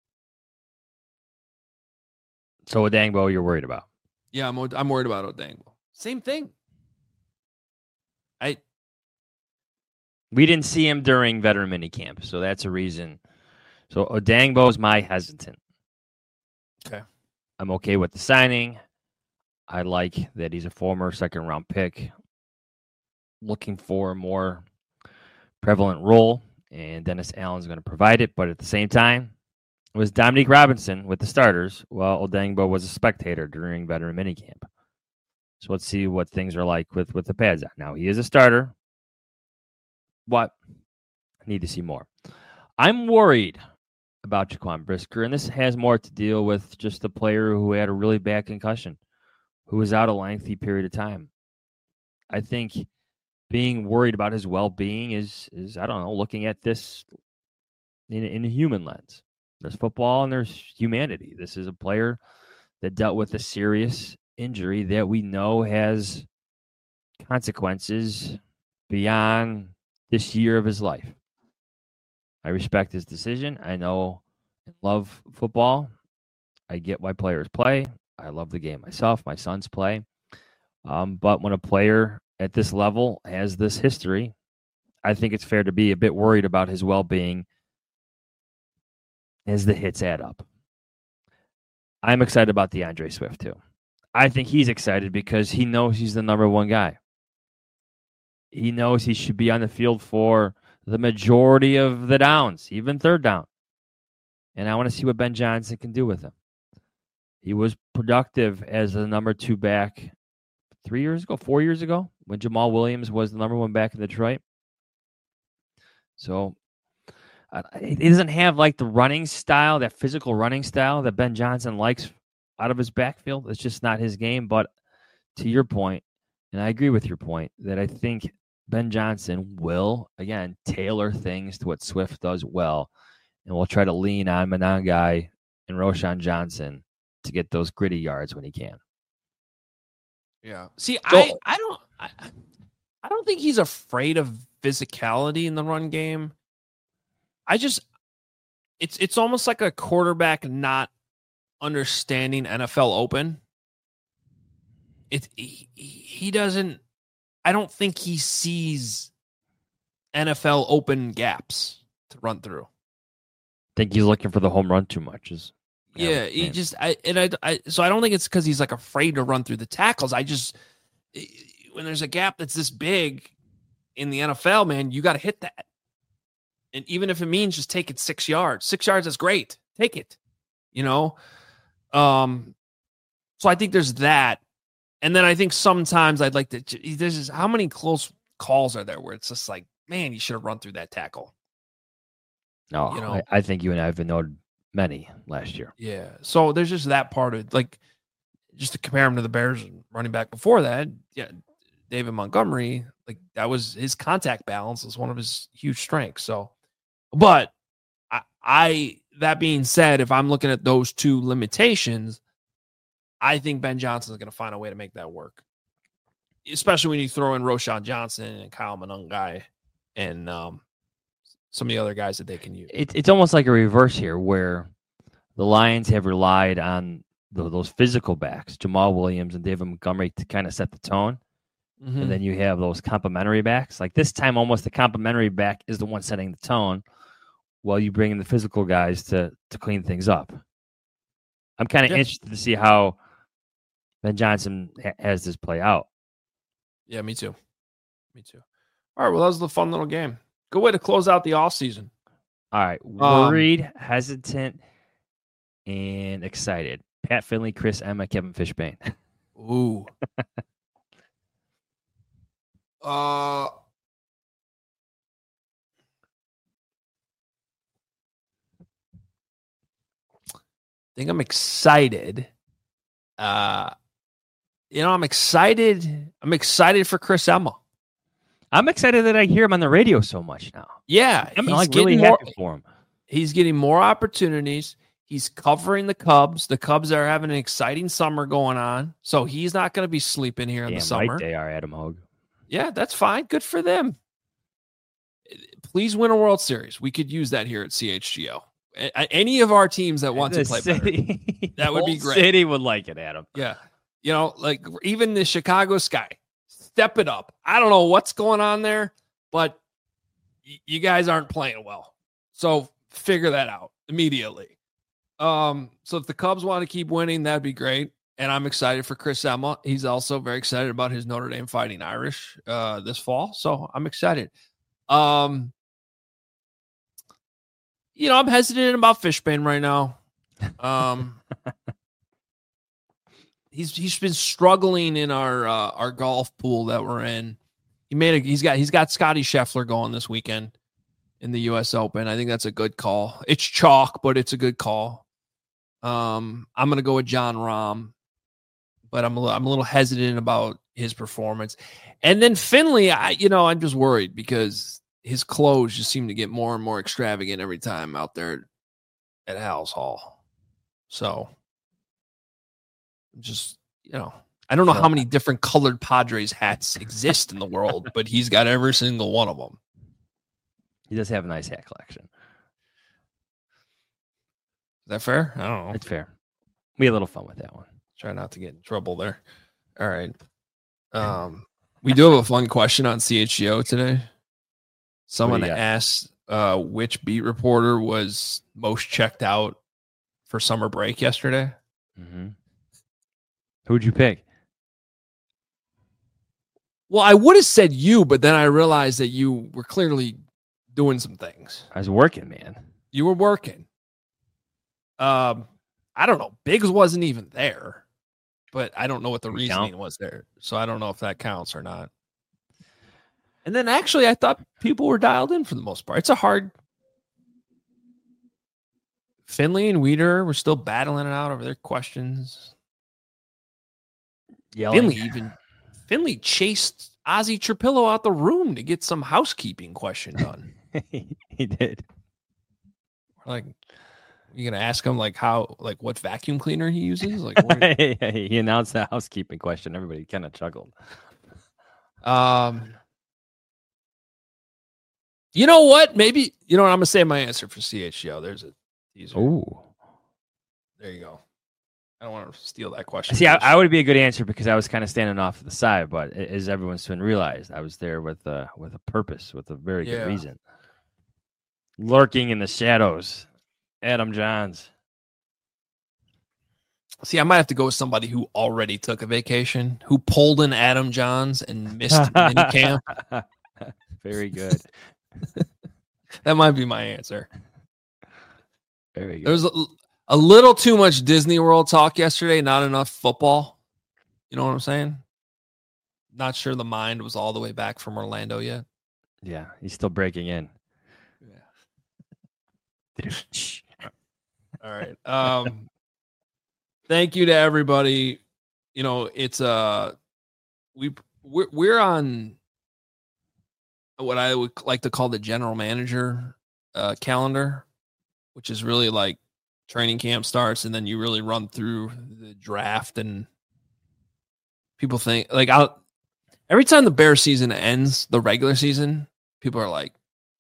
So Odangbo, you're worried about? Yeah, I'm I'm worried about Odangbo. Same thing. I we didn't see him during veteran minicamp, so that's a reason. So Odangbo is my hesitant. Okay. I'm okay with the signing. I like that he's a former second round pick, looking for a more prevalent role, and Dennis Allen's going to provide it. But at the same time, it was Dominique Robinson with the starters, while Odangbo was a spectator during veteran minicamp. So let's see what things are like with, with the pads on. Now, he is a starter, but I need to see more. I'm worried about Jaquan Brisker, and this has more to deal with just a player who had a really bad concussion, who was out a lengthy period of time. I think being worried about his well-being is, is I don't know, looking at this in, in a human lens. There's football and there's humanity. This is a player that dealt with a serious injury that we know has consequences beyond this year of his life. I respect his decision. I know and love football. I get why players play. I love the game myself. My sons play. Um, but when a player at this level has this history, I think it's fair to be a bit worried about his well-being as the hits add up. I'm excited about DeAndre Swift too. I think he's excited because he knows he's the number one guy. He knows he should be on the field for the majority of the downs, even third down. And I want to see what Ben Johnson can do with him. He was productive as the number two back three years ago, four years ago, when Jamal Williams was the number one back in Detroit. So uh, he doesn't have like the running style, that physical running style that Ben Johnson likes out of his backfield. It's just not his game. But to your point, and I agree with your point, that I think Ben Johnson will, again, tailor things to what Swift does well. And we'll try to lean on Monangai and Roschon Johnson to get those gritty yards when he can. Yeah. See, So, I, I don't I, I don't think he's afraid of physicality in the run game. I just it's it's almost like a quarterback not understanding N F L open. It he, he doesn't I don't think he sees N F L open gaps to run through. think he's looking for the home run too much. Is Yeah, he just I and I, I so I don't think it's because he's like afraid to run through the tackles. I just when there's a gap that's this big in the N F L, man, you got to hit that. And even if it means just take it six yards, six yards is great. Take it, you know. Um, so I think there's that, and then I think sometimes I'd like to. There's just, how many close calls are there where it's just like, man, you should have run through that tackle. No, you know, I, I think you and I have noted many last year. Yeah. So there's just that part of it. Like, just to compare him to the Bears running back before that, yeah, David Montgomery, like that was his contact balance was one of his huge strengths. So But I, I that being said, if I'm looking at those two limitations, I think Ben Johnson is going to find a way to make that work. Especially when you throw in Roshan Johnson and Kyle Monangai and um, some of the other guys that they can use. It, it's almost like a reverse here where the Lions have relied on the, those physical backs, Jamal Williams and David Montgomery, to kind of set the tone. Mm-hmm. And then you have those complementary backs. Like this time, almost the complementary back is the one setting the tone while you bring in the physical guys to, to clean things up. I'm kind of yeah. interested to see how Ben Johnson ha- has this play out. Yeah, me too. Me too. All right, well, that was a fun little game. Good way to close out the offseason. All right, worried, um, hesitant, and excited. Pat Finley, Chris Emma, Kevin Fishbain. Ooh. uh, I think I'm excited. Uh, you know, I'm excited. I'm excited for Chris Emma. I'm excited that I hear him on the radio so much now. Yeah, I'm like really more, happy for him. He's getting more opportunities. He's covering the Cubs. The Cubs are having an exciting summer going on, so he's not going to be sleeping here Damn in the summer. Right they are, Adam Hogue. Yeah, that's fine. Good for them. Please win a World Series. We could use that here at C H G O. Any of our teams that want the to play city, better, that would be great. City would like it, Adam. Yeah. You know, like even the Chicago Sky, step it up. I don't know what's going on there, but y- you guys aren't playing well. So figure that out immediately. Um, so if the Cubs want to keep winning, that'd be great. And I'm excited for Chris Emma. He's also very excited about his Notre Dame Fighting Irish uh, this fall. So I'm excited. Um, you know, I'm hesitant about Fishbain right now. Um, he's he's been struggling in our uh, our golf pool that we're in. He made a he's got he's got Scotty Scheffler going this weekend in the U S Open. I think that's a good call. It's chalk, but it's a good call. Um, I'm gonna go with John Rahm, but I'm a little, I'm a little hesitant about his performance. And then Finley, I you know I'm just worried because his clothes just seem to get more and more extravagant every time out there at Halas Hall. So just, you know, I don't know how many different colored Padres hats exist in the world, but he's got every single one of them. He does have a nice hat collection. Is that fair? I don't know. It's fair. We had a little fun with that one. Try not to get in trouble there. All right. Um, we do have a fun question on C H G O today. Someone asked uh, which beat reporter was most checked out for summer break yesterday. Mm-hmm. Who'd you pick? Well, I would have said you, but then I realized that you were clearly doing some things. I was working, man. You were working. Um, I don't know. Biggs wasn't even there, but I don't know what the reasoning count? was there. So I don't know if that counts or not. And then actually, I thought people were dialed in for the most part. It's a hard. Finley and Weeder were still battling it out over their questions. Yelling. Finley even Finley chased Ozzie Trapillo out the room to get some housekeeping question done. He did. Like, you gonna ask him like how, like what vacuum cleaner he uses? Like, what you... He announced the housekeeping question. Everybody kind of chuckled. Um. You know what? Maybe, you know what? I'm going to say my answer for C H G O. There's a teaser. Oh. There you go. I don't want to steal that question. See, I, I would be a good answer because I was kind of standing off to the side, but as everyone's soon realized, I was there with a, with a purpose, with a very yeah. good reason. Lurking in the shadows. Adam Johns. See, I might have to go with somebody who already took a vacation, who pulled in Adam Johns and missed minicamp. Very good. That might be my answer. Very good. There was a, a little too much Disney World talk yesterday, not enough football. You know what I'm saying? Not sure the mind was all the way back from Orlando yet. Yeah, he's still breaking in. Yeah. All right. Um, thank you to everybody. You know, it's uh we we're, we're on what I would like to call the general manager uh, calendar, which is really like training camp starts, and then you really run through the draft. And people think like I'll every time the Bears season ends, the regular season, people are like,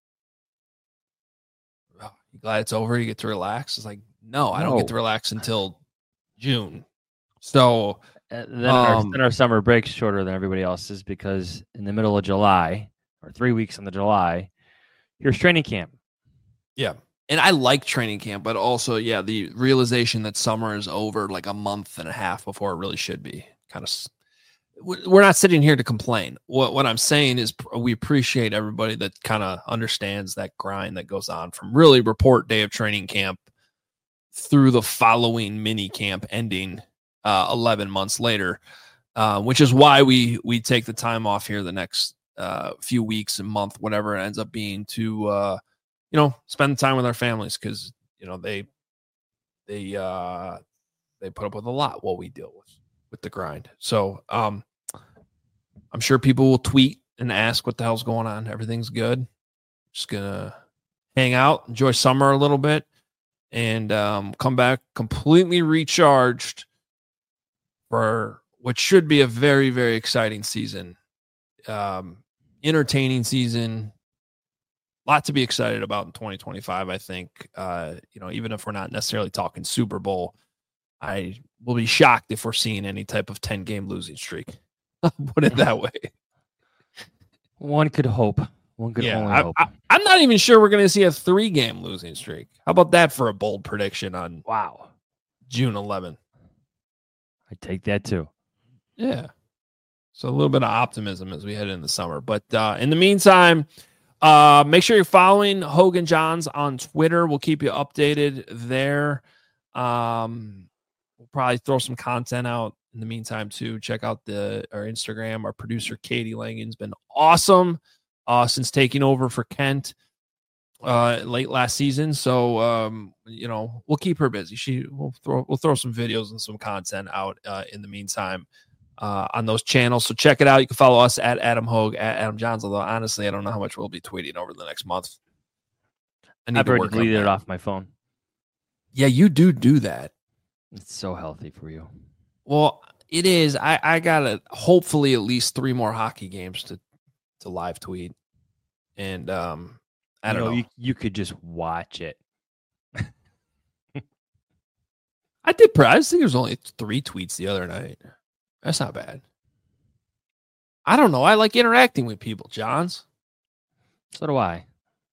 oh, "You glad it's over? You get to relax." It's like, no, I don't get to relax until June. So uh, then, um, our, then our summer break's shorter than everybody else's because in the middle of July or three weeks in the July, here's training camp. Yeah. And I like training camp, but also, yeah, the realization that summer is over like a month and a half before it really should be. Kind of, we're not sitting here to complain. What what I'm saying is we appreciate everybody that kind of understands that grind that goes on from really report day of training camp through the following mini camp ending uh, eleven months later, uh, which is why we we take the time off here the next uh, few weeks and month, whatever it ends up being, to uh, you know, spend time with our families, because you know they they uh, they put up with a lot while we deal with with the grind. So um, I'm sure people will tweet and ask what the hell's going on. Everything's good. Just gonna hang out, enjoy summer a little bit, and um, come back completely recharged for what should be a very, very exciting season, um, entertaining season. A lot to be excited about in twenty twenty-five, I think. Uh, you know, even if we're not necessarily talking Super Bowl, I will be shocked if we're seeing any type of ten-game losing streak. Put it that way. One could hope. One could yeah, only I, hope. I, I'm not even sure we're going to see a three-game losing streak. How about that for a bold prediction on wow June eleventh? I take that too. Yeah. So a little bit of optimism as we head into the summer. But uh, in the meantime, uh, make sure you're following Hogan Johns on Twitter. We'll keep you updated there. Um, we'll probably throw some content out in the meantime too. Check out the our Instagram. Our producer Katie Langen's been awesome uh, since taking over for Kent uh, late last season. So um, you know, we'll keep her busy. She will throw we'll throw some videos and some content out uh, in the meantime uh, on those channels. So check it out. You can follow us at Adam Hogue, at Adam Johns. Although honestly, I don't know how much we'll be tweeting over the next month. I need I've to already work on deleted that. it off my phone. Yeah, you do do that. It's so healthy for you. Well, it is. I, I got to hopefully at least three more hockey games to, to live tweet. And um, I you don't know, know. You, you could just watch it. I did. I think there was only three tweets the other night. That's not bad. I don't know. I like interacting with people, Johns. So do I.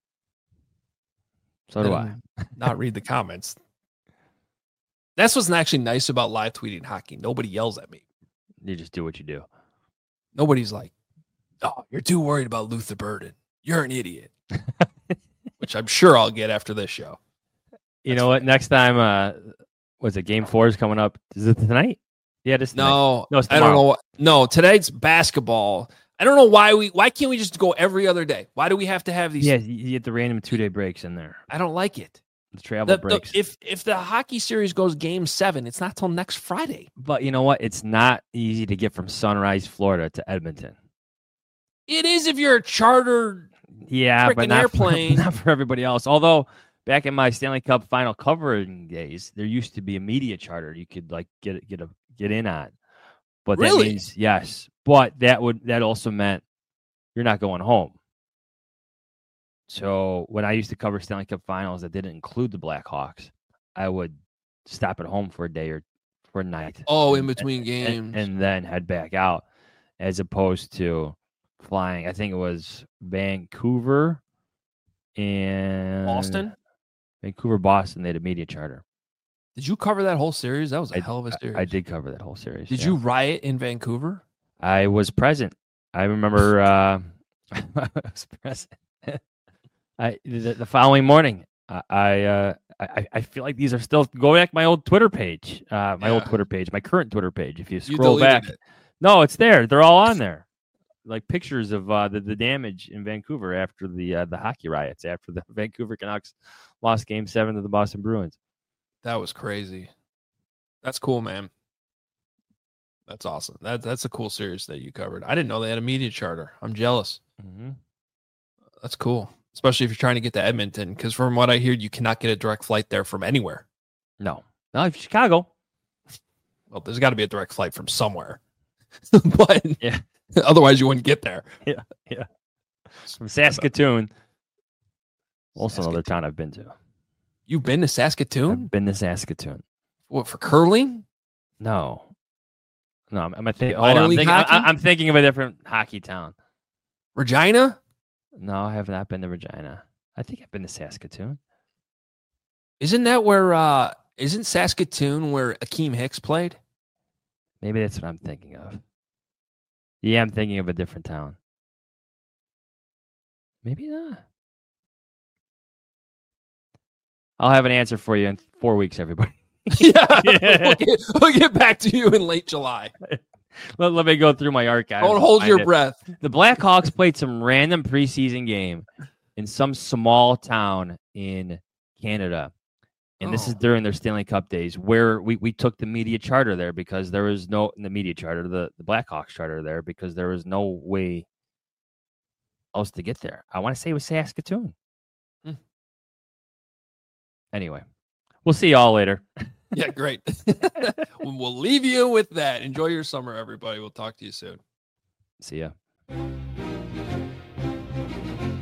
So do I. Not read the comments. That's what's actually nice about live tweeting hockey. Nobody yells at me. You just do what you do. Nobody's like, "Oh, you're too worried about Luther Burden. You're an idiot." Which I'm sure I'll get after this show. You That's know what? Funny. Next time, uh, was it game four is coming up? Is it tonight? Yeah, this no, no, it's I don't know. What, no, tonight's basketball. I don't know why we. Why can't we just go every other day? Why do we have to have these? Yeah, you get the random two day breaks in there. I don't like it. The travel the, breaks. The, if if the hockey series goes game seven, it's not till next Friday. But you know what? It's not easy to get from Sunrise, Florida to Edmonton. It is if you're a chartered yeah, but not airplane. For, not for everybody else. Although back in my Stanley Cup final covering days, there used to be a media charter you could like get get a get in on. But really? That means yes. But that would that also meant you're not going home. So when I used to cover Stanley Cup finals that didn't include the Blackhawks, I would stop at home for a day or for a night. Oh, and, in between and, games. And, and then head back out, as opposed to flying. I think it was Vancouver and Boston. Vancouver, Boston. They had a media charter. Did you cover that whole series? That was a I, hell of a series. I, I did cover that whole series. Did yeah. you riot in Vancouver? I was present. I remember uh, I was present. I the, the following morning, I I, uh, I I feel like these are still go back to my old Twitter page, uh, my yeah. old Twitter page, my current Twitter page. If you scroll you back, it. no, it's there. They're all on there, like pictures of uh, the the damage in Vancouver after the uh, the hockey riots, after the Vancouver Canucks lost Game Seven to the Boston Bruins. That was crazy. That's cool, man. That's awesome. That that's a cool series that you covered. I didn't know they had a media charter. I'm jealous. Mm-hmm. That's cool. especially if you're trying to get to Edmonton. Because from what I hear, you cannot get a direct flight there from anywhere. No, no, Chicago. Well, there's got to be a direct flight from somewhere, but yeah, otherwise you wouldn't get there. Yeah, yeah. From Saskatoon. Also, Saskatoon. another town I've been to. You've been to Saskatoon? I've been to Saskatoon. What, for curling? No, no. I'm, I'm, think, Minor hold on, I'm, league thinking, hockey? I, I'm thinking of a different hockey town. Regina? No, I have not been to Regina. I think I've been to Saskatoon. Isn't that where? uh Isn't Saskatoon where Akeem Hicks played? Maybe that's what I'm thinking of. Yeah, I'm thinking of a different town. Maybe not. I'll have an answer for you in four weeks, everybody. yeah, Yeah. We'll, get, we'll get back to you in late July. let, let me go through my archive. Don't and hold find your it. breath. The Blackhawks played some random preseason game in some small town in Canada. And this is Oh. during their Stanley Cup days, where we, we took the media charter there because there was no the media charter, the, the Blackhawks charter there because there was no way else to get there. I want to say it was Saskatoon. Hmm. Anyway, we'll see y'all later. Yeah, great. We'll leave you with that. Enjoy your summer, everybody. We'll talk to you soon. See ya.